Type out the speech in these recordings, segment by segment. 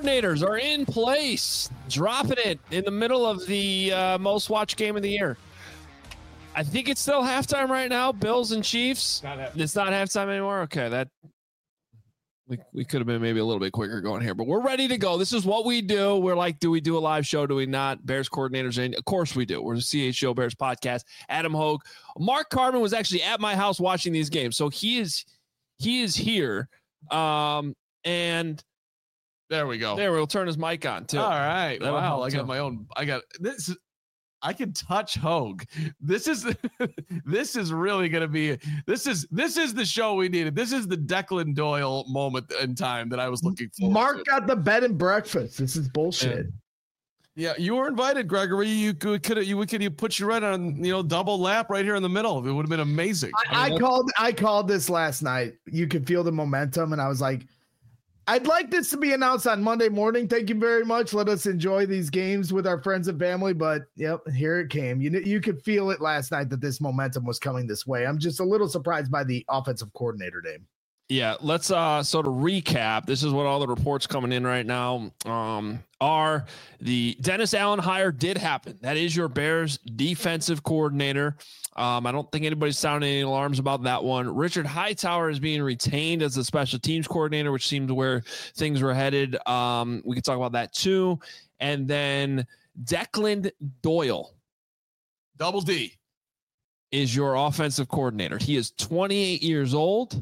coordinators are in place, dropping it in the middle of the most watched game of the year. I think it's still halftime right now, Bills and Chiefs. It's not halftime anymore? Okay, that we could have been maybe a little bit quicker going here, but we're ready to go. This is what we do. We're like, do we do a live show? Do we not? Bears coordinators in. Of course we do. We're the CHO Bears podcast. Adam Hogue. Mark Carman was actually at my house watching these games, so he is here. And there we go. There, we'll turn his mic on too. All right. Wow. I got my own. I got this. I can touch Hogue. This is really going to be, this is the show we needed. This is the Declan Doyle moment in time that I was looking for. Mark got the bed and breakfast. This is bullshit. Yeah. You were invited, Gregory. You could put you right on, double lap right here in the middle. It would have been amazing. I called this last night. You could feel the momentum. And I was like, I'd like this to be announced on Monday morning. Thank you very much. Let us enjoy these games with our friends and family. But yep, here it came. You could feel it last night that this momentum was coming this way. I'm just a little surprised by the offensive coordinator name. Yeah, let's sort of recap. This is what all the reports coming in right now are. The Dennis Allen hire did happen. That is your Bears defensive coordinator. I don't think anybody's sounding any alarms about that one. Richard Hightower is being retained as the special teams coordinator, which seems where things were headed. We could talk about that too. And then Declan Doyle, Double D, is your offensive coordinator. He is 28 years old,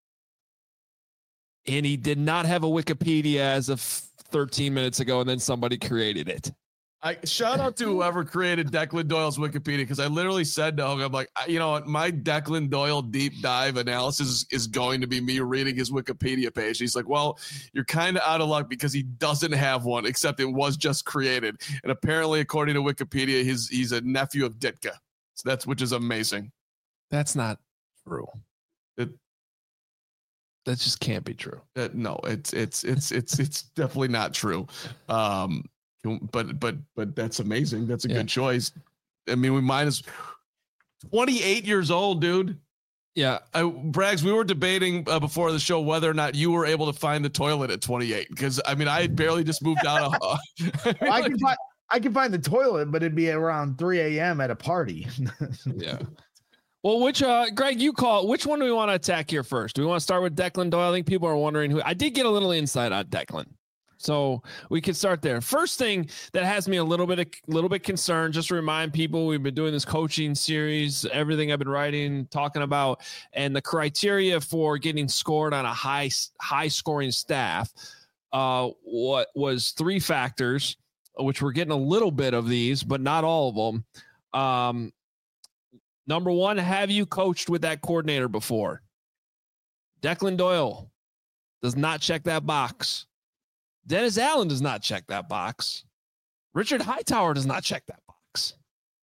and he did not have a Wikipedia as of 13 minutes ago, and then somebody created it. I shout out to whoever created Declan Doyle's Wikipedia, because I literally said to him, I'm like, you know what, my Declan Doyle deep dive analysis is going to be me reading his Wikipedia page. He's like, well, you're kind of out of luck because he doesn't have one, except it was just created. And apparently, according to Wikipedia, he's a nephew of Ditka. So which is amazing. That's not true. That just can't be true. No, it's definitely not true. But that's amazing. That's a good choice. I mean, we minus 28 years old, dude. Yeah. Braggs, we were debating before the show whether or not you were able to find the toilet at 28. Because I mean, I had barely just moved out of I can find the toilet, but it'd be around 3 a.m. at a party. Yeah. Well, which Greg, you call, which one do we want to attack here first? Do we want to start with Declan Doyle? I think people are wondering who. I did get a little insight on Declan, so we could start there. First thing that has me a little bit concerned, just to remind people, we've been doing this coaching series, everything I've been writing, talking about, and the criteria for getting scored on a high scoring staff. What was 3 factors, which we're getting a little bit of these, but not all of them. Number 1, have you coached with that coordinator before? Declan Doyle does not check that box. Dennis Allen does not check that box. Richard Hightower does not check that box.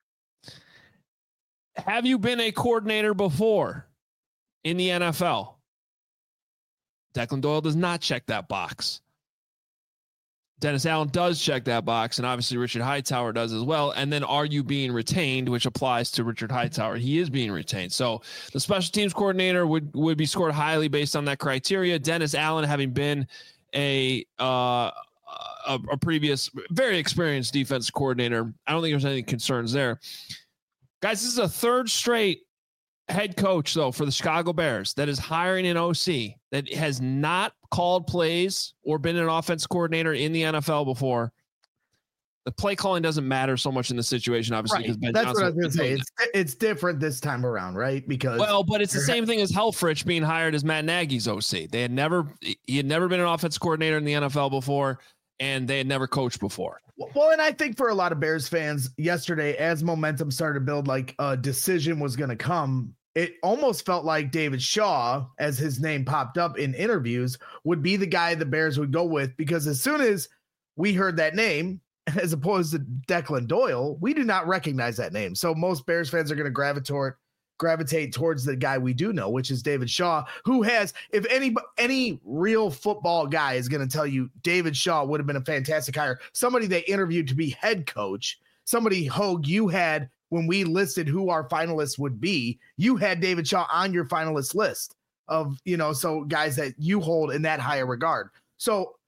Have you been a coordinator before in the NFL? Declan Doyle does not check that box. Dennis Allen does check that box, and obviously Richard Hightower does as well. And then, are you being retained, which applies to Richard Hightower? He is being retained. So the special teams coordinator would be scored highly based on that criteria. Dennis Allen, having been a previous very experienced defense coordinator, I don't think there's any concerns there. Guys, this is a 3rd straight head coach, though, for the Chicago Bears that is hiring an OC that has not called plays or been an offense coordinator in the NFL before. The play calling doesn't matter so much in the situation, obviously. Right. That's Johnson, what I was going to say. It's different this time around, right? Because but it's the same thing as Helfrich being hired as Matt Nagy's OC. He had never been an offense coordinator in the NFL before, and they had never coached before. Well, and I think for a lot of Bears fans yesterday, as momentum started to build, like a decision was going to come, it almost felt like David Shaw, as his name popped up in interviews, would be the guy the Bears would go with, because as soon as we heard that name, as opposed to Declan Doyle, we do not recognize that name. So most Bears fans are going to gravitate towards the guy we do know, which is David Shaw, who has, if any real football guy is going to tell you David Shaw would have been a fantastic hire, somebody they interviewed to be head coach, somebody, Hogue, you had, when we listed who our finalists would be, you had David Shaw on your finalist list of, so guys that you hold in that higher regard. So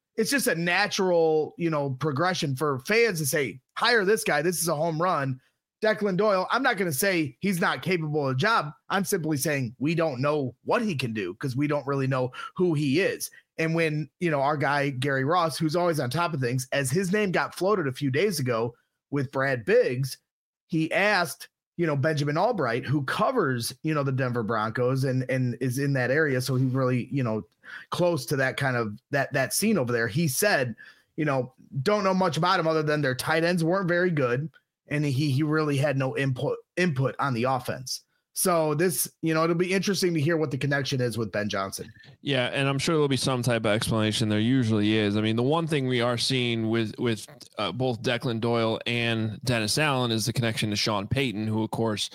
it's just a natural, progression for fans to say, hire this guy. This is a home run. Declan Doyle, I'm not going to say he's not capable of the job. I'm simply saying we don't know what he can do because we don't really know who he is. And when, our guy, Gary Ross, who's always on top of things, as his name got floated a few days ago with Brad Biggs, he asked, Benjamin Albright, who covers, the Denver Broncos and is in that area. So he's really, close to that kind of that scene over there. He said, don't know much about him other than their tight ends weren't very good. And he really had no input on the offense. So this, it'll be interesting to hear what the connection is with Ben Johnson. Yeah, and I'm sure there'll be some type of explanation. There usually is. I mean, the one thing we are seeing with both Declan Doyle and Dennis Allen is the connection to Sean Payton, who, of course,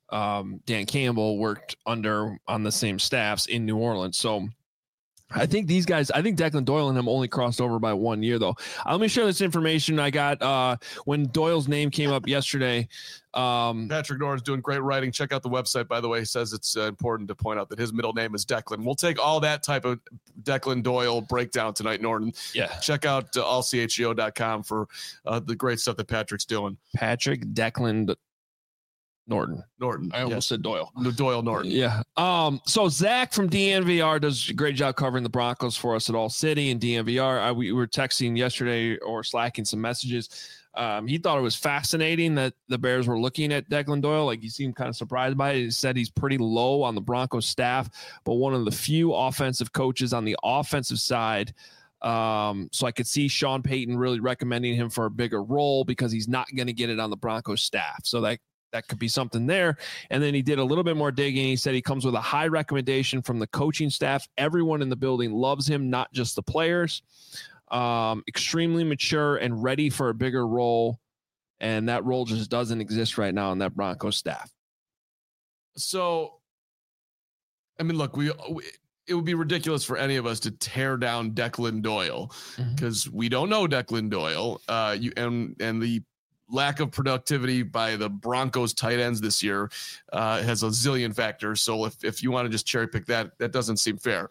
Dan Campbell worked under on the same staffs in New Orleans. So I think these guys, Declan Doyle and him only crossed over by 1 year, though. Let me share this information I got when Doyle's name came up yesterday. Patrick Norris doing great writing. Check out the website, by the way. He says it's important to point out that his middle name is Declan. We'll take all that type of Declan Doyle breakdown tonight, Norton. Yeah. Check out allchgo.com for the great stuff that Patrick's doing. Patrick Declan Norton. I almost said Doyle. Doyle Norton. Yeah. So Zach from DNVR does a great job covering the Broncos for us at All City and DNVR. We were texting yesterday or slacking some messages. He thought it was fascinating that the Bears were looking at Declan Doyle. Like, he seemed kind of surprised by it. He said he's pretty low on the Broncos staff, but one of the few offensive coaches on the offensive side. So I could see Sean Payton really recommending him for a bigger role because he's not going to get it on the Broncos staff. So that could be something there. And then he did a little bit more digging. He said he comes with a high recommendation from the coaching staff. Everyone in the building loves him, not just the players. Extremely mature and ready for a bigger role. And that role just doesn't exist right now on that Broncos staff. So, I mean, look, it would be ridiculous for any of us to tear down Declan Doyle because we don't know Declan Doyle. And the lack of productivity by the Broncos tight ends this year has a zillion factors. So if you want to just cherry pick that doesn't seem fair.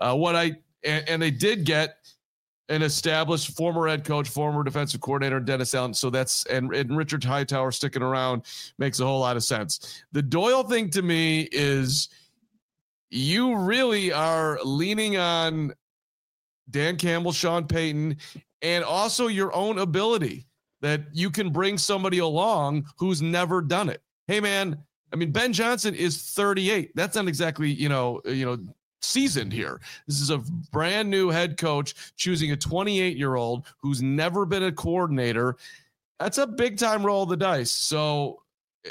And they did get an established former head coach, former defensive coordinator, Dennis Allen. So and Richard Hightower sticking around makes a whole lot of sense. The Doyle thing to me is you really are leaning on Dan Campbell, Sean Payton, and also your own ability that you can bring somebody along who's never done it. Hey, man, I mean, Ben Johnson is 38. That's not exactly, seasoned here. This is a brand new head coach choosing a 28-year-old who's never been a coordinator. That's a big time roll of the dice. So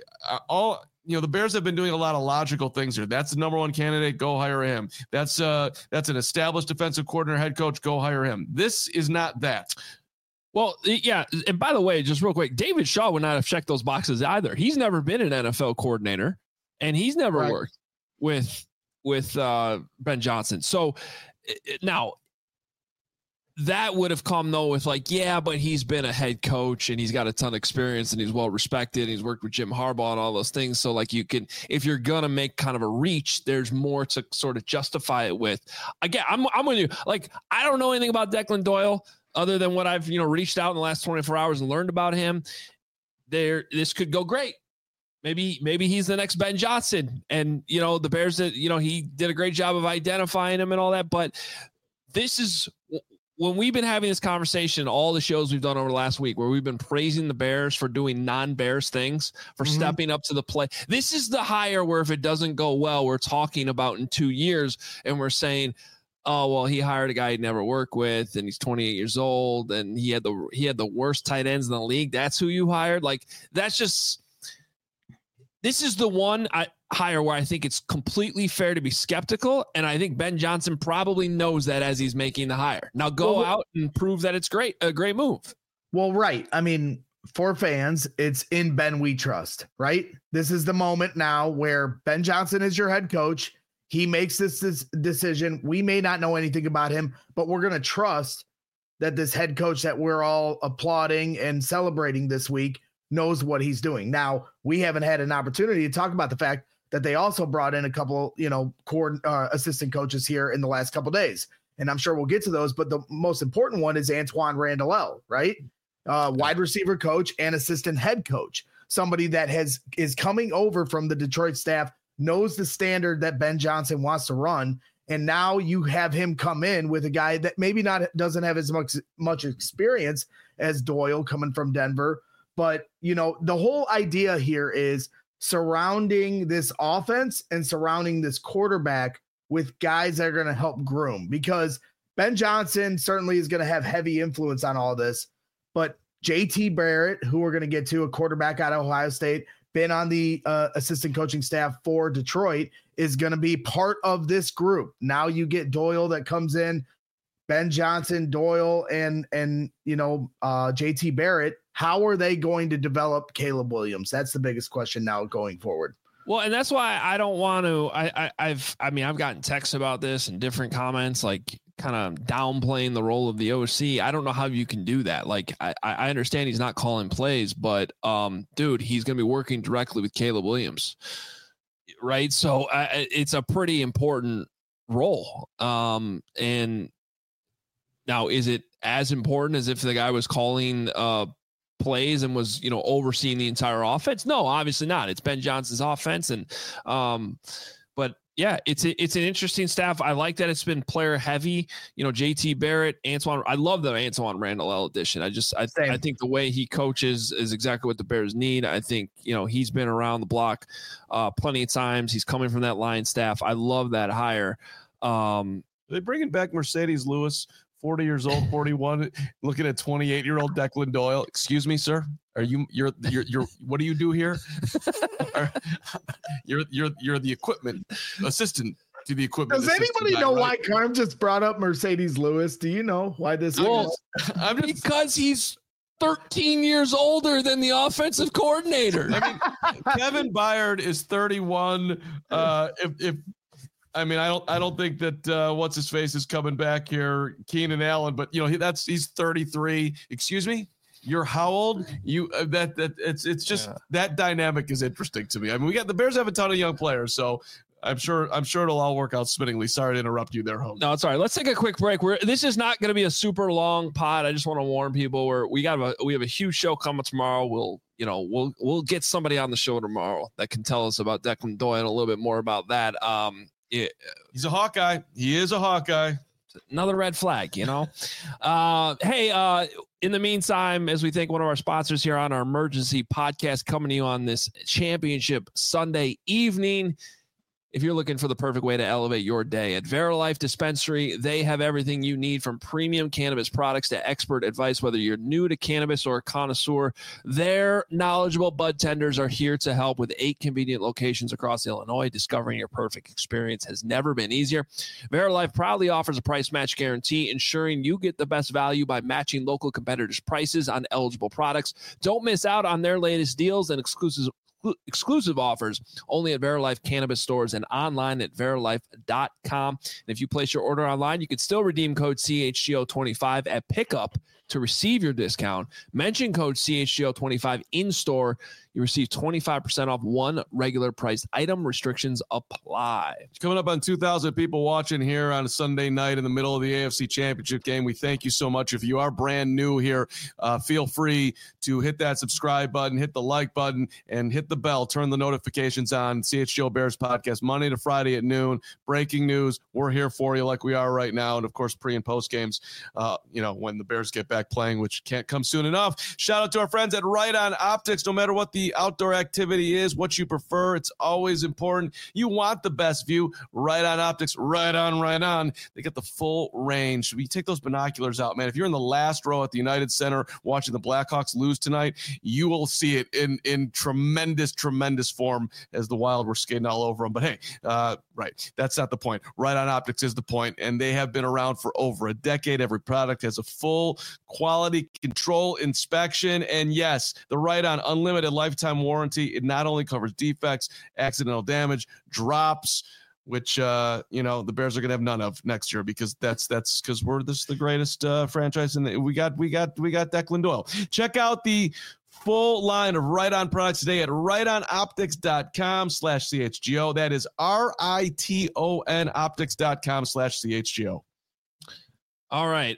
the Bears have been doing a lot of logical things here. That's the number one candidate. Go hire him. That's an established defensive coordinator, head coach. Go hire him. This is not that. Well, yeah. And by the way, just real quick, David Shaw would not have checked those boxes either. He's never been an NFL coordinator and he's never worked with Ben Johnson. So now that would have come though with but he's been a head coach and he's got a ton of experience and he's well respected. And he's worked with Jim Harbaugh and all those things. So you can, if you're going to make kind of a reach, there's more to sort of justify it with. Again, I'm with you. I don't know anything about Declan Doyle other than what I've, reached out in the last 24 hours and learned about him. This could go great. Maybe he's the next Ben Johnson. And, the Bears, he did a great job of identifying him and all that. But this is when we've been having this conversation, all the shows we've done over the last week, where we've been praising the Bears for doing non-Bears things, for stepping up to the plate. This is the hire where if it doesn't go well, we're talking about in 2 years and we're saying, oh, well, he hired a guy he'd never worked with and he's 28 years old and he had the worst tight ends in the league. That's who you hired. This is the one hire where I think it's completely fair to be skeptical. And I think Ben Johnson probably knows that as he's making the hire. Now go out and prove that it's a great move. Well, right. I mean, for fans, it's in Ben we trust, right? This is the moment now where Ben Johnson is your head coach. He makes this decision. We may not know anything about him, but we're going to trust that this head coach that we're all applauding and celebrating this week knows what he's doing. Now, we haven't had an opportunity to talk about the fact that they also brought in a couple, assistant coaches here in the last couple of days. and I'm sure we'll get to those, but the most important one is Antoine Randall, right? Wide receiver coach and assistant head coach, somebody that is coming over from the Detroit staff, knows the standard that Ben Johnson wants to run. And now you have him come in with a guy that maybe doesn't have as much experience as Doyle coming from Denver. But, you know, the whole idea here is surrounding this offense and surrounding this quarterback with guys that are going to help groom, because Ben Johnson certainly is going to have heavy influence on all this. But JT Barrett, who we're going to get to, a quarterback out of Ohio State, been on the assistant coaching staff for Detroit, is going to be part of this group. Now you get Doyle that comes in, Ben Johnson, Doyle, and you know, JT Barrett. How are they going to develop Caleb Williams? That's the biggest question now going forward. Well, and that's why I don't want to. I've gotten texts about this and different comments, like kind of downplaying the role of the OC. I don't know how you can do that. Like, I understand he's not calling plays, but dude, he's going to be working directly with Caleb Williams, right? So it's a pretty important role. And now, is it as important as if the guy was calling plays and was, you know, overseeing the entire offense? No, obviously not. It's Ben Johnson's offense. And, but yeah, it's an interesting staff. I like that it's been player heavy, you know, JT Barrett, Antoine. I love the Antoine Randall addition. I think the way he coaches is exactly what the Bears need. I think, you know, he's been around the block plenty of times. He's coming from that line staff. I love that hire. Are they bringing back Mercedes Lewis? 40 years old, 41, looking at 28-year-old Declan Doyle. Excuse me, sir. You're what do you do here? You're the equipment assistant to the equipment. Does anybody know why Carm just brought up Mercedes Lewis? Do you know why this is? Because he's 13 years older than the offensive coordinator. I mean, Kevin Byard is 31. I don't think that what's his face is coming back here, Keenan Allen, but you know, he's 33. Excuse me, you're how old? It's just that dynamic is interesting to me. I mean, the Bears have a ton of young players, so I'm sure it'll all work out swimmingly. Sorry to interrupt you there, Hope. No, it's all right. Let's take a quick break. This is not going to be a super long pod. I just want to warn people we have a huge show coming tomorrow. We'll get somebody on the show tomorrow that can tell us about Declan Doyle and a little bit more about that. Yeah. He's a Hawkeye. He is a Hawkeye. Another red flag, you know. Hey, in the meantime, as we thank one of our sponsors here on our emergency podcast coming to you on this championship Sunday evening. If you're looking for the perfect way to elevate your day, at Verilife Dispensary, they have everything you need, from premium cannabis products to expert advice. Whether you're new to cannabis or a connoisseur, their knowledgeable bud tenders are here to help. With 8 convenient locations across Illinois, discovering your perfect experience has never been easier. Verilife proudly offers a price match guarantee, ensuring you get the best value by matching local competitors' prices on eligible products. Don't miss out on their latest deals and exclusive offers only at Verilife Cannabis stores and online at verilife.com. And if you place your order online, you can still redeem code CHGO25 at pickup to receive your discount. Mention code CHGO25 in store. You receive 25% off one regular priced item. Restrictions apply. Coming up on 2,000 people watching here on a Sunday night in the middle of the AFC Championship game. We thank you so much. If you are brand new here, feel free to hit that subscribe button, hit the like button, and hit the bell. Turn the notifications on. CHGO Bears podcast, Monday to Friday at noon. Breaking news. We're here for you like we are right now. And, of course, pre- and post games, when the Bears get back playing, which can't come soon enough. Shout out to our friends at Right On Optics. No matter what the outdoor activity is, what you prefer, it's always important. You want the best view. Right On Optics, right on. They get the full range. You take those binoculars out, man. If you're in the last row at the United Center watching the Blackhawks lose tonight, you will see it in tremendous form as the Wild were skating all over them. But hey, right, that's not the point. Right On Optics is the point, and they have been around for over a decade. Every product has a full quality control inspection, and yes, the Right On unlimited lifetime warranty. It not only covers defects, accidental damage, drops, which the Bears are going to have none of next year, because that's because we're the greatest franchise, and we got Declan Doyle. Check out the full line of Right On products today at rightonoptics.com/CHGO. That is RITON optics.com/CHGO. All right.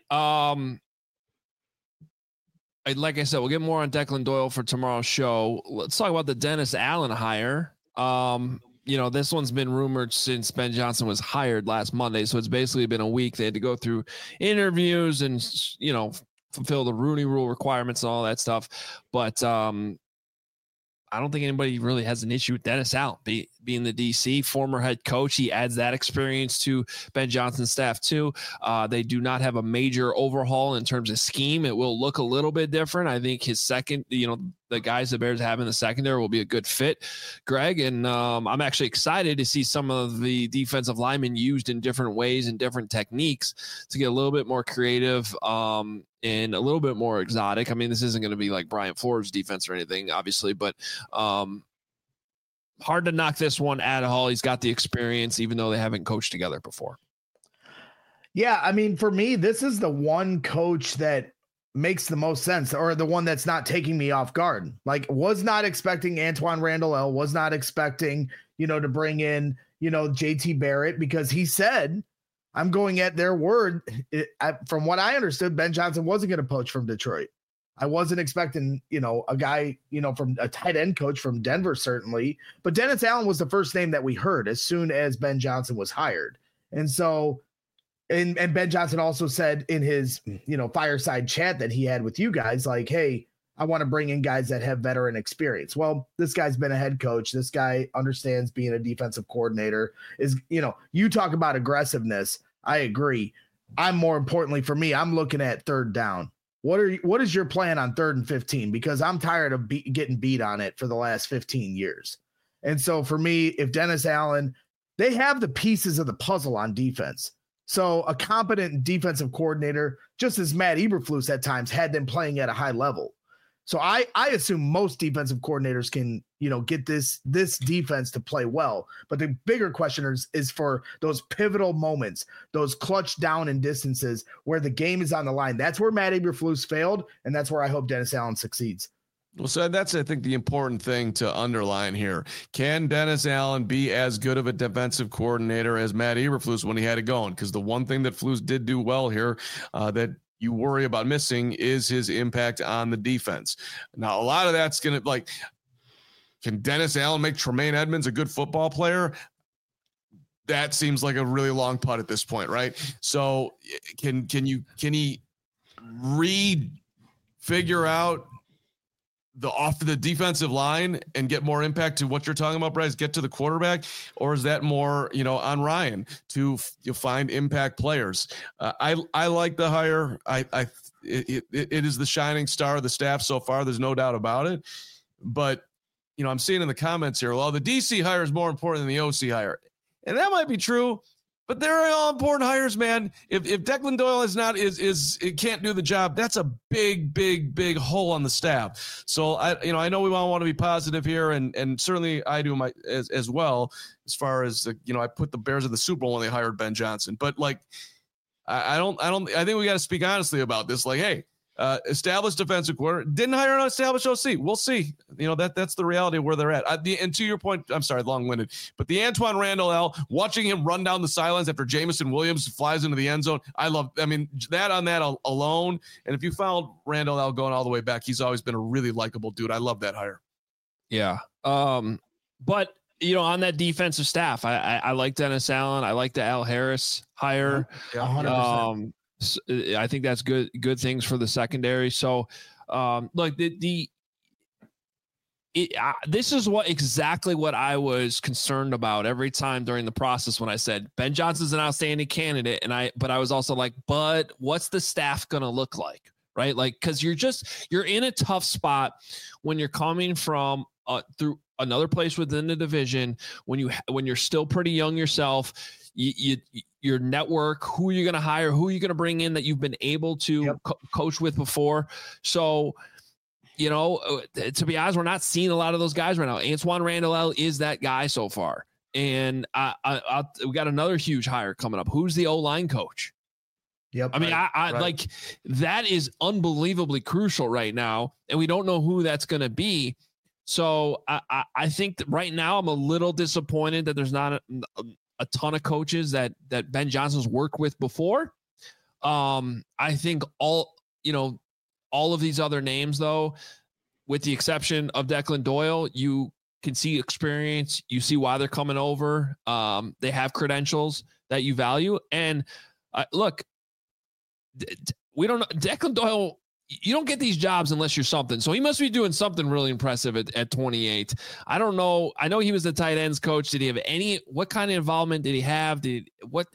Like I said, we'll get more on Declan Doyle for tomorrow's show. Let's talk about the Dennis Allen hire. This one's been rumored since Ben Johnson was hired last Monday. So it's basically been a week. They had to go through interviews and, fulfill the Rooney Rule requirements and all that stuff. But I don't think anybody really has an issue with Dennis Allen being the DC former head coach. He adds that experience to Ben Johnson's staff too. They do not have a major overhaul in terms of scheme. It will look a little bit different. I think his second, the guys the Bears have in the secondary will be a good fit, Greg. And I'm actually excited to see some of the defensive linemen used in different ways and different techniques to get a little bit more creative and a little bit more exotic. I mean, this isn't going to be like Brian Flores defense or anything, obviously, but hard to knock this one at all. He's got the experience, even though they haven't coached together before. Yeah, I mean, for me, this is the one coach that makes the most sense, or the one that's not taking me off guard. Like, was not expecting Antoine Randall, was not expecting, to bring in, JT Barrett, because he said, I'm going at their word. From what I understood, Ben Johnson wasn't going to poach from Detroit. I wasn't expecting, a guy, from a tight end coach from Denver, certainly. But Dennis Allen was the first name that we heard as soon as Ben Johnson was hired. And so, and Ben Johnson also said in his, fireside chat that he had with you guys, like, hey, I want to bring in guys that have veteran experience. Well, this guy's been a head coach. This guy understands being a defensive coordinator. Is, you talk about aggressiveness. I agree. More importantly for me, I'm looking at third down. What is your plan on 3rd and 15? Because I'm tired of getting beat on it for the last 15 years. And so for me, if Dennis Allen, they have the pieces of the puzzle on defense. So a competent defensive coordinator, just as Matt Eberflus at times had them playing at a high level. So I assume most defensive coordinators can, get this defense to play well. But the bigger question is for those pivotal moments, those clutch down and distances where the game is on the line. That's where Matt Eberflus failed, and that's where I hope Dennis Allen succeeds. Well, so that's, I think, the important thing to underline here. Can Dennis Allen be as good of a defensive coordinator as Matt Eberflus when he had it going? Because the one thing that Flus did do well here that you worry about missing is his impact on the defense. Now, a lot of that's going to, can Dennis Allen make Tremaine Edmonds a good football player? That seems like a really long putt at this point, right? So can he figure out the defensive line and get more impact to what you're talking about, Bryce, get to the quarterback? Or is that more, on Ryan to find impact players? I like the hire. It is the shining star of the staff so far. There's no doubt about it. But, I'm seeing in the comments here, well, the DC hire is more important than the OC hire. And that might be true, but they're all important hires, man. If Declan Doyle it can't do the job, that's a big hole on the staff. So I know we want to be positive here, and certainly I do as well, as far as I put the Bears in the Super Bowl when they hired Ben Johnson. But I think we got to speak honestly about this. Hey, established defensive coordinator, didn't hire an established OC. We'll see. That's the reality of where they're at. And to your point, I'm sorry, long-winded, but the Antoine Randall, watching him run down the sidelines after Jamison Williams flies into the end zone, that on that alone. And if you found Randall going all the way back, he's always been a really likable dude. I love that hire. Yeah. But on that defensive staff, I like Dennis Allen. I like the Al Harris hire. Yeah, 100%. I think that's good things for the secondary. So, this is exactly what I was concerned about every time during the process when I said Ben Johnson's an outstanding candidate, but I was also like, but what's the staff going to look like, right? Because you're in a tough spot when you're coming from through another place within the division, when you're still pretty young yourself. Your network, who you're going to hire, who you're going to bring in that you've been able to coach with before. So, to be honest, we're not seeing a lot of those guys right now. Antoine Randall is that guy so far. And we got another huge hire coming up. Who's the O-line coach? Yep. I mean, right. That is unbelievably crucial right now. And we don't know who that's going to be. So I think that right now I'm a little disappointed that there's not a ton of coaches that Ben Johnson's worked with before. I think all of these other names, though, with the exception of Declan Doyle, you can see experience. You see why they're coming over. They have credentials that you value. And look, we don't know. Declan Doyle, you don't get these jobs unless you're something. So he must be doing something really impressive at 28. I don't know. I know he was the tight ends coach. Did he have what kind of involvement did he have? Did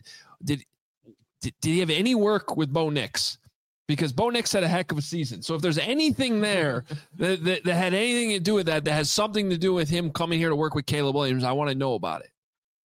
he have any work with Bo Nix? Because Bo Nix had a heck of a season. So if there's anything there that had anything to do with that has something to do with him coming here to work with Caleb Williams, I want to know about it.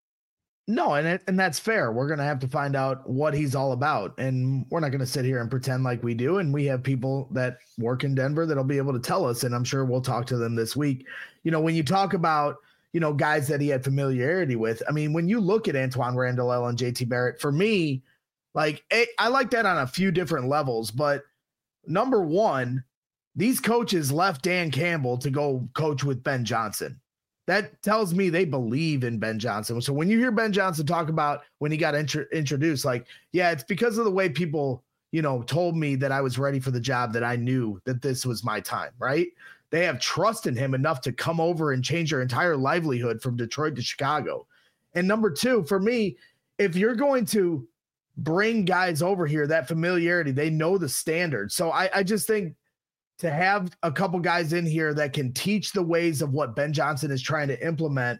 No, and that's fair. We're going to have to find out what he's all about. And we're not going to sit here and pretend like we do. And we have people that work in Denver that'll be able to tell us. And I'm sure we'll talk to them this week. When you talk about, guys that he had familiarity with, I mean, when you look at Antoine Randall and JT Barrett, for me, like, I like that on a few different levels, but number one, these coaches left Dan Campbell to go coach with Ben Johnson. That tells me they believe in Ben Johnson. So when you hear Ben Johnson talk about when he got introduced, like, yeah, it's because of the way people, told me that I was ready for the job, that I knew that this was my time, right? They have trust in him enough to come over and change their entire livelihood from Detroit to Chicago. And number two, for me, if you're going to bring guys over here, that familiarity, they know the standard. So I just think to have a couple guys in here that can teach the ways of what Ben Johnson is trying to implement,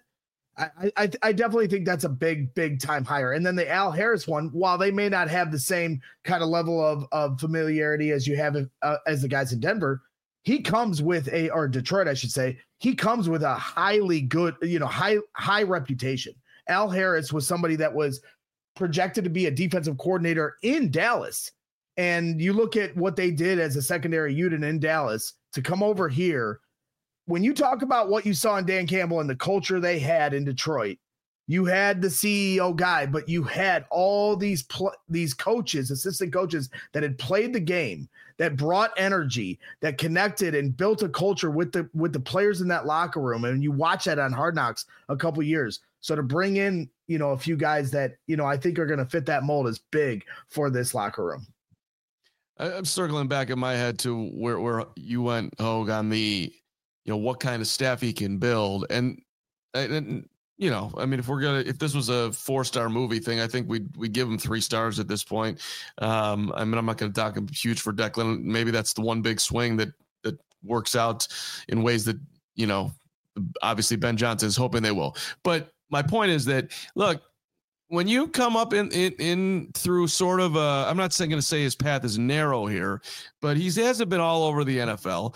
I definitely think that's a big time hire. And then the Al Harris one, while they may not have the same kind of level of familiarity as you have as the guys in Denver, he comes with or Detroit, I should say, he comes with a highly good, high reputation. Al Harris was somebody that was projected to be a defensive coordinator in Dallas. And you look at what they did as a secondary unit in Dallas to come over here. When you talk about what you saw in Dan Campbell and the culture they had in Detroit, you had the CEO guy, but you had all these coaches, assistant coaches that had played the game, that brought energy, that connected and built a culture with the players in that locker room. And you watch that on Hard Knocks a couple years. So to bring in, a few guys that, I think are going to fit that mold is big for this locker room. I'm circling back in my head to where you went, Hogue, on the, what kind of staff he can build. And I mean, if this was a 4-star movie thing, I think we give him 3 stars at this point. I mean, I'm not going to talk huge for Declan. Maybe that's the one big swing that works out in ways that, obviously Ben Johnson is hoping they will. But my point is that, look, when you come up in through sort of I'm not going to say his path is narrow here, but he hasn't been all over the NFL.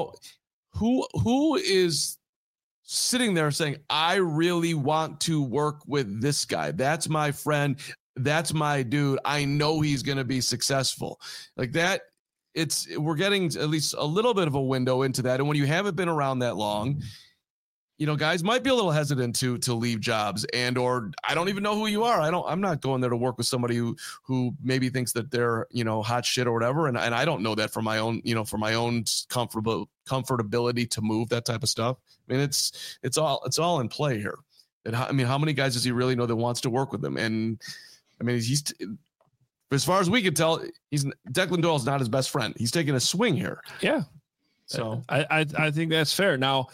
Who is sitting there saying, I really want to work with this guy. That's my friend. That's my dude. I know he's going to be successful like that. We're getting at least a little bit of a window into that. And when you haven't been around that long, guys might be a little hesitant to leave jobs or I don't even know who you are. I'm not going there to work with somebody who maybe thinks that they're, hot shit or whatever. And I don't know that for my own, for my own comfortability to move that type of stuff. I mean, it's all in play here. And how many guys does he really know that wants to work with him? And I mean, he's, as far as we can tell, Declan Doyle's not his best friend. He's taking a swing here. Yeah. So I think that's fair. Now,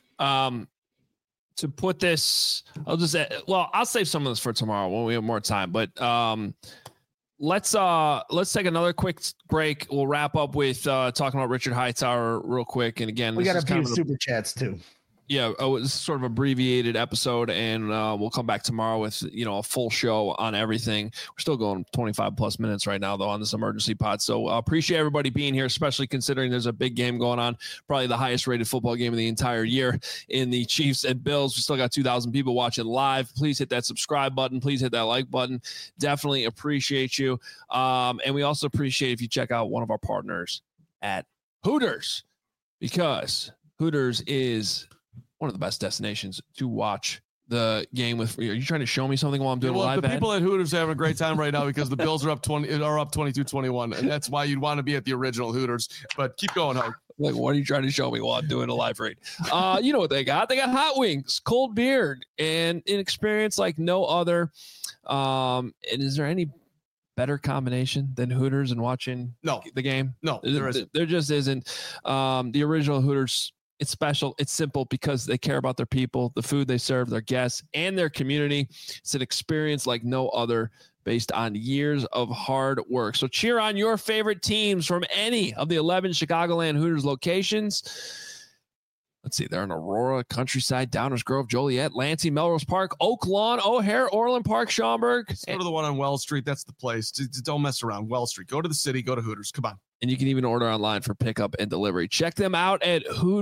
to put this, I'll save some of this for tomorrow when we have more time, but let's take another quick break. We'll wrap up with talking about Richard Hightower real quick. And again, we got a few super chats too. Yeah, this is sort of abbreviated episode, and we'll come back tomorrow with a full show on everything. We're still going 25 plus minutes right now though on this emergency pod. So appreciate everybody being here, especially considering there's a big game going on, probably the highest rated football game of the entire year in the Chiefs and Bills. We still got 2,000 people watching live. Please hit that subscribe button. Please hit that like button. Definitely appreciate you. And we also appreciate if you check out one of our partners at Hooters, because Hooters is one of the best destinations to watch the game with. Are you trying to show me something while I'm doing a live the people at Hooters are having a great time right now because the Bills are up 22-21, and that's why you'd want to be at the original Hooters. But keep going, Hogue. Like, what are you trying to show me while I'm doing a live read? You know what they got? They got hot wings, cold beer, and an experience like no other. And is there any better combination than Hooters and watching the game? No, there isn't. There just isn't. The original Hooters, it's special. It's simple because they care about their people, the food they serve, their guests, and their community. It's an experience like no other based on years of hard work. So cheer on your favorite teams from any of the 11 Chicagoland Hooters locations. Let's see, they're in Aurora, Countryside, Downers Grove, Joliet, Lansing, Melrose Park, Oak Lawn, O'Hare, Orland Park, Schaumburg. Let's go to the one on Wells Street. That's the place. Don't mess around. Wells Street. Go to the city. Go to Hooters. Come on. And you can even order online for pickup and delivery. Check them out at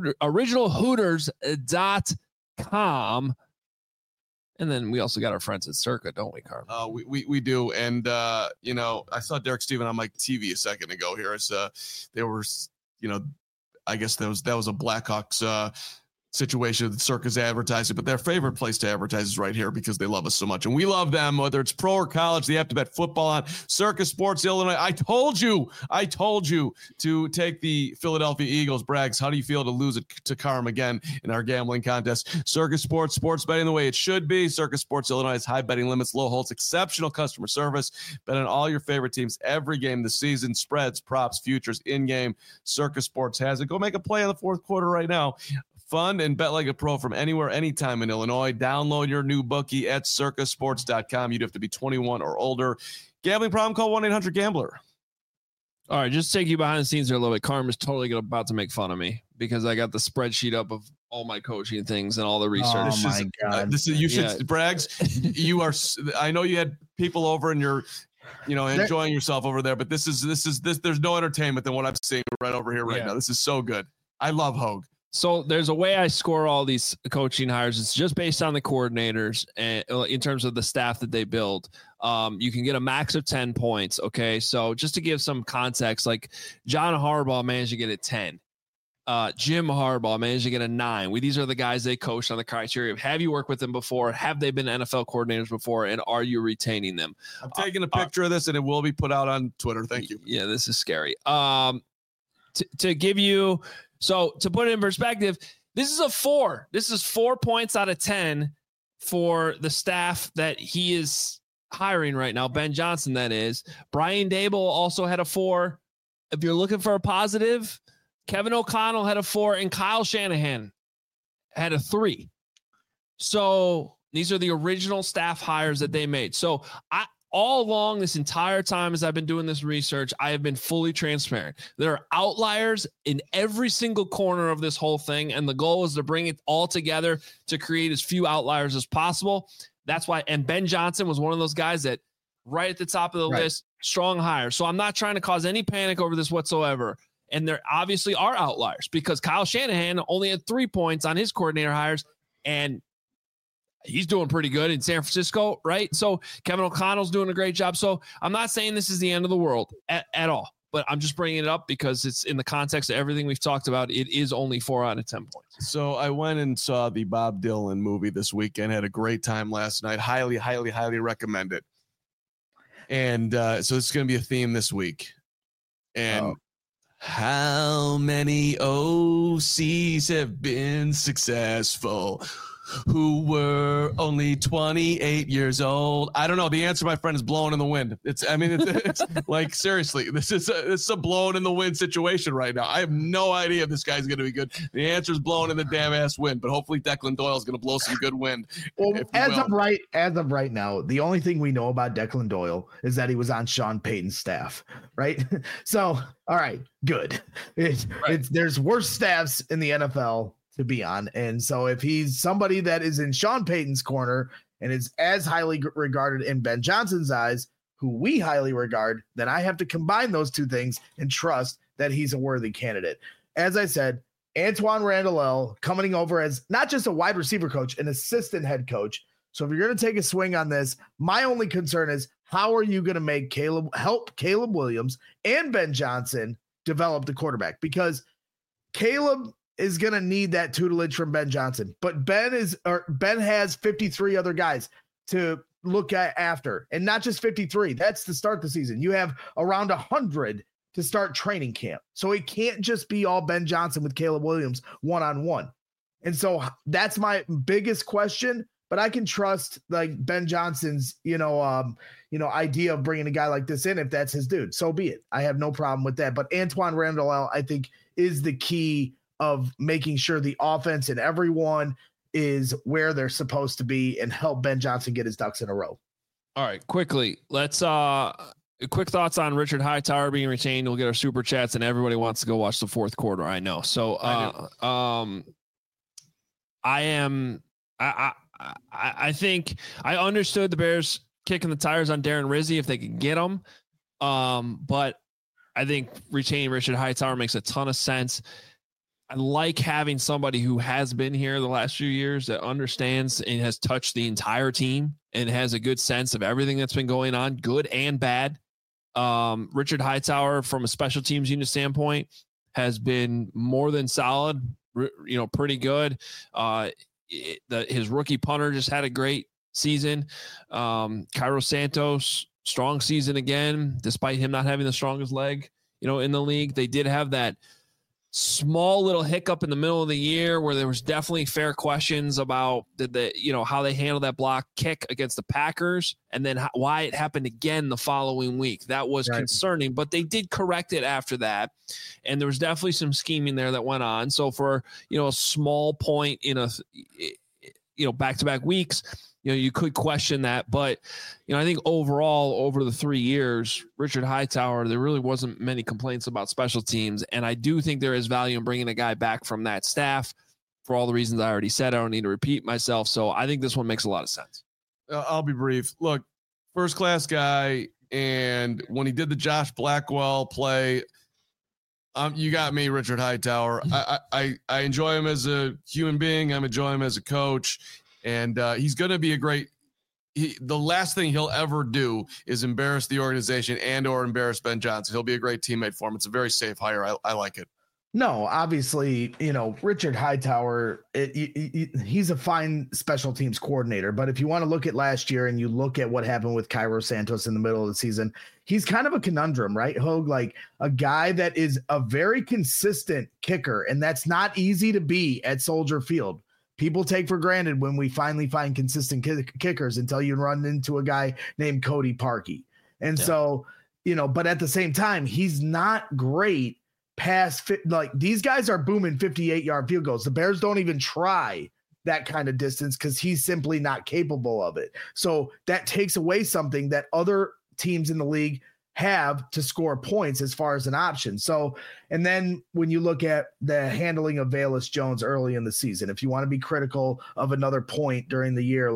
originalhooters.com. And then we also got our friends at Circa, don't we, Carl? We do. And, I saw Derek Steven on my TV a second ago here. They were, I guess that was a Blackhawks situation that Circa's advertising, but their favorite place to advertise is right here because they love us so much. And we love them, whether it's pro or college. They have to bet football on Circa Sports Illinois. I told you to take the Philadelphia Eagles. Braggs, how do you feel to lose it to Carm again in our gambling contest? Circa Sports betting the way it should be. Circa Sports Illinois has high betting limits, low holds, exceptional customer service. Bet on all your favorite teams every game this season. Spreads, props, futures, in-game. Circa Sports has it. Go make a play in the fourth quarter right now. Fun and bet like a pro from anywhere, anytime in Illinois. Download your new bookie at circasports.com. You'd have to be 21 or older. Gambling problem? Call 1-800-GAMBLER. All right, just take you behind the scenes here a little bit. Carm is totally about to make fun of me because I got the spreadsheet up of all my coaching things and all the research. Oh my God! Braggs. You are. I know you had people over and you're, enjoying yourself over there, but this. There's no entertainment than what I'm seeing right over here right now. This is so good. I love Hogue. So there's a way I score all these coaching hires. It's just based on the coordinators and in terms of the staff that they build. You can get a max of 10 points. Okay. So just to give some context, like John Harbaugh managed to get a 10. Jim Harbaugh managed to get a 9. These are the guys they coached on the criteria of have you worked with them before? Have they been NFL coordinators before? And are you retaining them? I'm taking a picture of this and it will be put out on Twitter. Thank you. Yeah, this is scary. To give you, so to put it in perspective, this is a 4. This is 4 points out of 10 for the staff that he is hiring right now. Ben Johnson, that is. Brian Daboll also had a 4. If you're looking for a positive, Kevin O'Connell had a 4 and Kyle Shanahan had a 3. So these are the original staff hires that they made. So all along this entire time as I've been doing this research, I have been fully transparent. There are outliers in every single corner of this whole thing, and the goal is to bring it all together to create as few outliers as possible. That's why, and Ben Johnson was one of those guys that right at the top of the list, strong hire. So I'm not trying to cause any panic over this whatsoever. And there obviously are outliers because Kyle Shanahan only had 3 points on his coordinator hires, and he's doing pretty good in San Francisco, right? So Kevin O'Connell's doing a great job. So I'm not saying this is the end of the world at all, but I'm just bringing it up because it's in the context of everything we've talked about. It is only 4 out of 10 points. So I went and saw the Bob Dylan movie this weekend. Had a great time last night. Highly, highly, highly recommend it. And so it's going to be a theme this week. And how many OCs have been successful who were only 28 years old? I don't know. The answer, my friend, is blowing in the wind. It's like, seriously, this is a blowing in the wind situation right now. I have no idea if this guy's going to be good. The answer is blowing in the damn ass wind, but hopefully Declan Doyle is going to blow some good wind. Well, as of right now, the only thing we know about Declan Doyle is that he was on Sean Payton's staff, right? So, all right, good. There's worse staffs in the NFL to be on. And so if he's somebody that is in Sean Payton's corner and is as highly regarded in Ben Johnson's eyes, who we highly regard, then I have to combine those two things and trust that he's a worthy candidate. As I said, Antoine Randall coming over as not just a wide receiver coach, an assistant head coach. So if you're going to take a swing on this, my only concern is how are you going to help Caleb Williams and Ben Johnson develop the quarterback? Because Caleb is going to need that tutelage from Ben Johnson, but Ben has 53 other guys to look at after, and not just 53. That's to start the season. You have around 100 to start training camp. So it can't just be all Ben Johnson with Caleb Williams one-on-one. And so that's my biggest question. but I can trust like Ben Johnson's, idea of bringing a guy like this in. If that's his dude, so be it. I have no problem with that. But Antoine Randall, I think, is the key of making sure the offense and everyone is where they're supposed to be and help Ben Johnson get his ducks in a row. All right, quickly, let's quick thoughts on Richard Hightower being retained. We'll get our super chats, and everybody wants to go watch the fourth quarter. I know. So I think I understood the Bears kicking the tires on Darren Rizzi if they could get him. But I think retaining Richard Hightower makes a ton of sense. I like having somebody who has been here the last few years that understands and has touched the entire team and has a good sense of everything that's been going on, good and bad. Richard Hightower, from a special teams unit standpoint, has been more than solid, pretty good. His rookie punter just had a great season. Cairo Santos, strong season again, despite him not having the strongest leg, in the league. They did have that small little hiccup in the middle of the year where there was definitely fair questions about how they handled that block kick against the Packers, and then why it happened again the following week. That was concerning, but they did correct it after that. And there was definitely some scheming there that went on. So for, a small point in back-to-back weeks, you could question that, but I think overall over the 3 years, Richard Hightower, there really wasn't many complaints about special teams. And I do think there is value in bringing a guy back from that staff for all the reasons I already said. I don't need to repeat myself. So I think this one makes a lot of sense. I'll be brief. Look, first class guy. And when he did the Josh Blackwell play, you got me, Richard Hightower. I enjoy him as a human being. I'm enjoying him as a coach. And he's going to be the last thing he'll ever do is embarrass the organization and or embarrass Ben Johnson. He'll be a great teammate for him. It's a very safe hire. I like it. No, obviously, Richard Hightower, he's a fine special teams coordinator. But if you want to look at last year and you look at what happened with Cairo Santos in the middle of the season, he's kind of a conundrum, right, Hogue? Like a guy that is a very consistent kicker, and that's not easy to be at Soldier Field. People take for granted when we finally find consistent kickers until you run into a guy named Cody Parkey. And so, but at the same time, he's not great past these guys are booming 58-yard field goals. The Bears don't even try that kind of distance because he's simply not capable of it. So that takes away something that other teams in the league have to score points as far as an option. So, and then when you look at the handling of Velus Jones early in the season, if you want to be critical of another point during the year,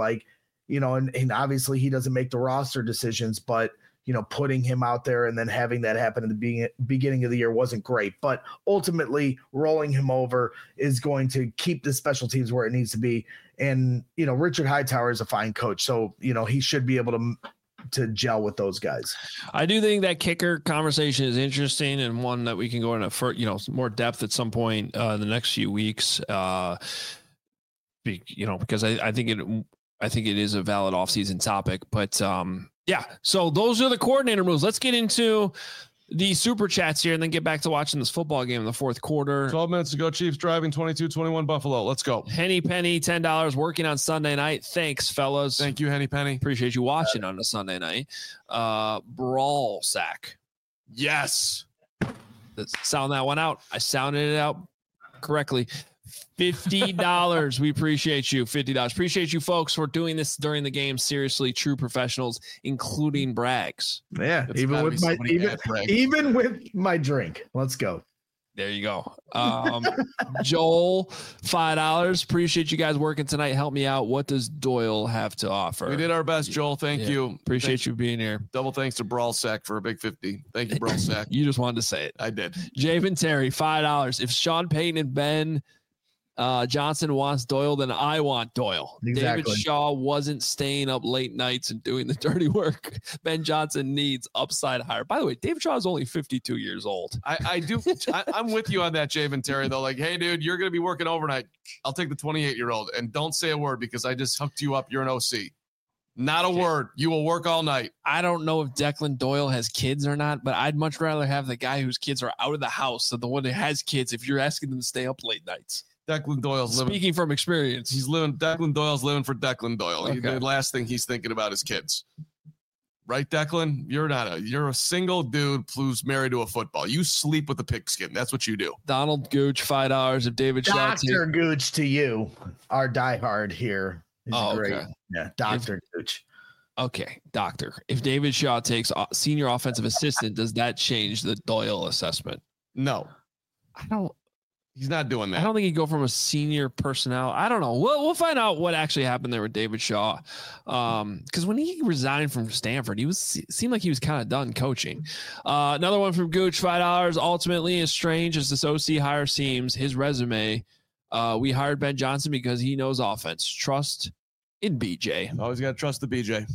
and obviously he doesn't make the roster decisions, but putting him out there and then having that happen at the beginning of the year wasn't great, but ultimately rolling him over is going to keep the special teams where it needs to be. And, Richard Hightower is a fine coach. So, he should be able to gel with those guys. I do think that kicker conversation is interesting and one that we can go into more depth at some point in the next few weeks. Because I think it is a valid offseason topic, but yeah. So those are the coordinator moves. Let's get into the super chats here and then get back to watching this football game in the fourth quarter. 12 minutes to go. Chiefs driving 22-21 Buffalo. Let's go. Henny Penny, $10 working on Sunday night. Thanks, fellas. Thank you, Henny Penny. Appreciate you watching on a Sunday night. Brawl sack. Yes. Let's sound that one out. I sounded it out correctly. $50. We appreciate you. $50. Appreciate you folks for doing this during the game. Seriously, true professionals, including Brags. Yeah, even with my drink. Let's go. There you go. Joel, $5. Appreciate you guys working tonight. Help me out. What does Doyle have to offer? We did our best, Joel. Thank you. Appreciate you being here. Double thanks to Brawl Sack for a big 50. Thank you, Brawl Sack. You just wanted to say it. I did. Javen Terry, $5. If Sean Payton and Ben Johnson wants Doyle, then I want Doyle. Exactly. David Shaw wasn't staying up late nights and doing the dirty work. Ben Johnson needs upside higher. By the way, David Shaw is only 52 years old. I'm with you on that, Javen Terry, though. Like, hey, dude, you're going to be working overnight. I'll take the 28-year-old. And don't say a word because I just hooked you up. You're an OC. Not a word. You will work all night. I don't know if Declan Doyle has kids or not, but I'd much rather have the guy whose kids are out of the house than the one that has kids if you're asking them to stay up late nights. Declan Doyle's living. Speaking from experience. Declan Doyle's living for Declan Doyle. Okay. The last thing he's thinking about is kids. Right, Declan? You're a single dude who's married to a football. You sleep with the pigskin. That's what you do. Donald Gooch, $5. If David Shaw Dr. Gooch to you, our diehard here. He's great. Okay. Yeah, Dr. Gooch. Okay, doctor. If David Shaw takes senior offensive assistant, does that change the Doyle assessment? No. He's not doing that. I don't think he'd go from a senior personnel. I don't know. We'll find out what actually happened there with David Shaw. Because when he resigned from Stanford, seemed like he was kind of done coaching. Another one from Gooch, $5. Ultimately, as strange as this OC hire seems, his resume, we hired Ben Johnson because he knows offense. Trust in BJ. Always got to trust the BJ.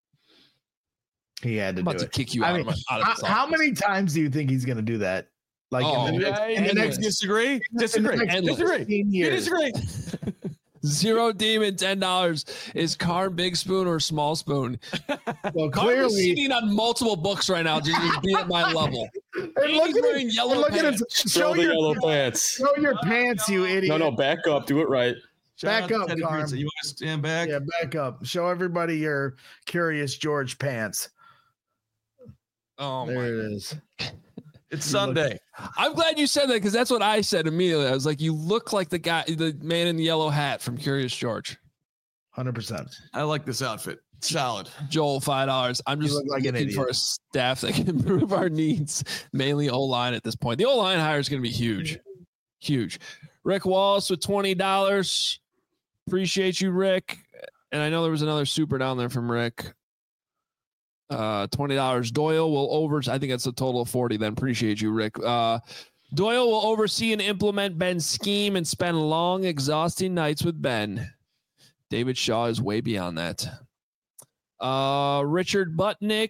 He had to I'm do about to it. kick you out of this How office. many times do you think he's going to do that? Like in the next disagree. Disagree. You disagree. Zero Demon, $10. Is Carm Big Spoon or Small Spoon? Well, Carm is clearly, sitting on multiple books right now just to be at my level. and He's wearing yellow pants. Show the yellow pants. Show your pants, you idiot. No, back up. Do it right. Back up, Carm. You want to stand back? Yeah, back up. Show everybody your Curious George pants. Oh, There my. it is. It's Sunday. I'm glad you said that because that's what I said immediately. I was like, you look like the man in the yellow hat from Curious George. 100%. I like this outfit. Solid. Joel, $5. I'm just look like an looking for idiot. a staff that can improve our needs, mainly O-line at this point. The O-line hire is going to be huge. Huge. Rick Wallace with $20. Appreciate you, Rick. And I know there was another super down there from Rick. $20. Doyle will I think that's a total of 40 then. Appreciate you, Rick. Doyle will oversee and implement Ben's scheme and spend long, exhausting nights with Ben. David Shaw is way beyond that. Richard Butnick,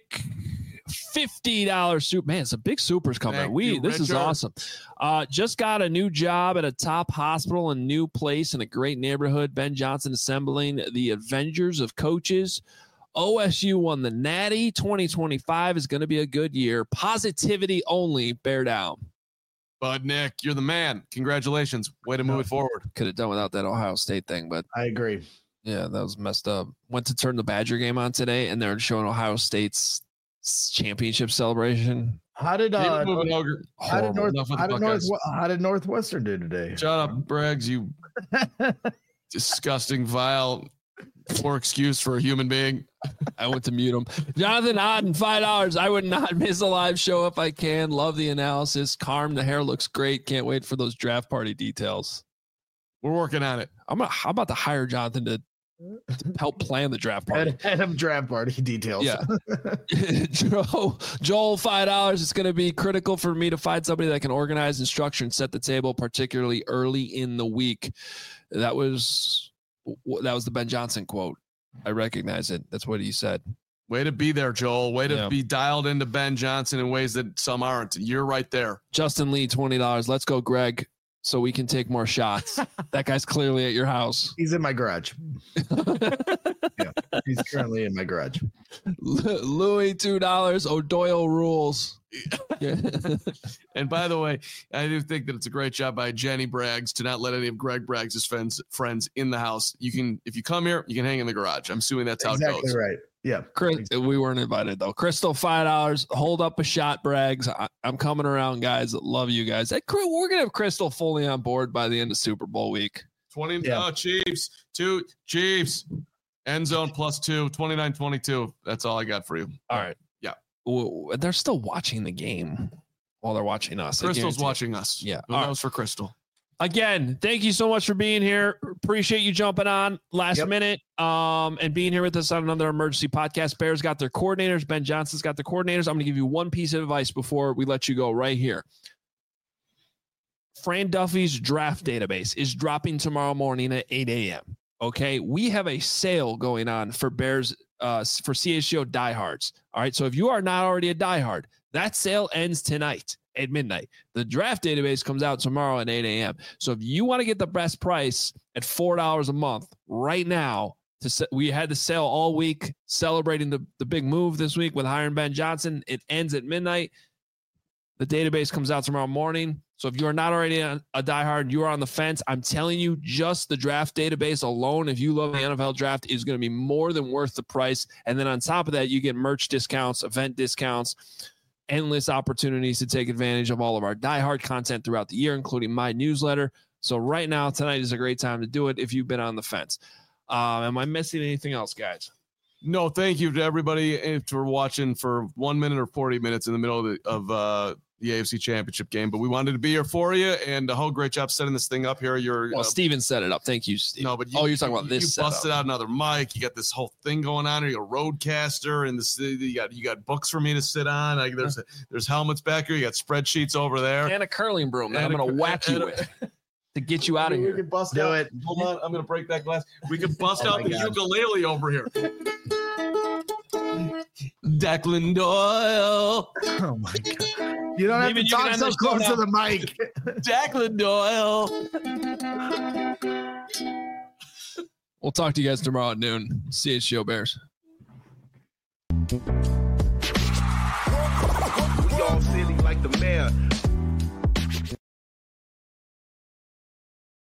$50 super. Man, some big supers coming. Thank you, This is Richard. awesome. Just got a new job at a top hospital and new place in a great neighborhood. Ben Johnson assembling the Avengers of coaches. OSU won the Natty. 2025 is going to be a good year. Positivity only. Bear down. Bud Nick, you're the man. Congratulations. Way to move it forward. Could have done without that Ohio State thing, but I agree. yeah, that was messed up. Went to turn the Badger game on today, and they're showing Ohio State's championship celebration. How did Horrible. how did Northwestern do today? Shut up, Braggs, you disgusting, vile, poor excuse for a human being. I went to mute him. Jonathan Otten, $5. I would not miss a live show if I can. Love the analysis. Carm, the hair looks great. Can't wait for those draft party details. We're working on it. I'm about to hire Jonathan to help plan the draft party. Adam draft party details. Yeah. Joel, $5. It's going to be critical for me to find somebody that can organize and structure and set the table, particularly early in the week. That was the Ben Johnson quote. I recognize it. That's what he said. Way to be there, Joel. Way to Yeah. be dialed into Ben Johnson in ways that some aren't. You're right there. Justin Lee, $20. Let's go, Greg, so we can take more shots. That guy's clearly at your house. He's in my garage. Yeah, he's currently in my garage. Louis, $2. O'Doyle rules. Yeah. And by the way, I do think that it's a great job by Jenny Braggs to not let any of Greg Braggs' friends in the house. You can, if you come here, you can hang in the garage. I'm assuming that's how it Exactly goes. right. Yeah. Chris, we weren't invited though. Crystal, $5. Hold up a shot, Braggs. I'm coming around, guys. Love you guys. We're gonna have Crystal fully on board by the end of Super Bowl week. 20 Yeah. Chiefs, 2 Chiefs, end zone +2, 29-22. That's all I got for you. All right. Yeah. They're still watching the game while they're watching us. I Crystal's guarantee it. watching us. Yeah. Who All knows for Crystal? Again, thank you so much for being here. Appreciate you jumping on last minute and being here with us on another emergency podcast. Bears got their coordinators. Ben Johnson's got their coordinators. I'm going to give you one piece of advice before we let you go right here. Fran Duffy's draft database is dropping tomorrow morning at 8 a.m. Okay. We have a sale going on for Bears, for CHGO diehards. All right. So if you are not already a diehard, that sale ends tonight at midnight. The draft database comes out tomorrow at 8 a.m. So if you want to get the best price at $4 a month right now, we had the sale all week celebrating the big move this week with hiring Ben Johnson. It ends at midnight. The database comes out tomorrow morning. So if you are not already a diehard, you are on the fence. I'm telling you, just the draft database alone, if you love the NFL draft, is going to be more than worth the price. And then on top of that, you get merch discounts, event discounts, endless opportunities to take advantage of all of our diehard content throughout the year, including my newsletter. So right now, tonight is a great time to do it if you've been on the fence. Am I missing anything else, guys? No, thank you to everybody for watching for 1 minute or 40 minutes in the middle of the AFC Championship game. But we wanted to be here for you, and a whole great job setting this thing up here. Steven set it up. Thank you, Steve. No, but you're talking about this. You busted out another mic. You got this whole thing going on here. You got a roadcaster, and you got books for me to sit on. Like there's helmets back here. You got spreadsheets over there, and a curling broom that I'm going to whack you with to get you out of here. We can bust out. it. Hold on, I'm going to break that glass. We can bust out the ukulele over here. Declan Doyle. Oh my God. You don't have to talk so close to the mic. Declan Doyle. We'll talk to you guys tomorrow at noon. CHGO Bears. We all silly like the mayor.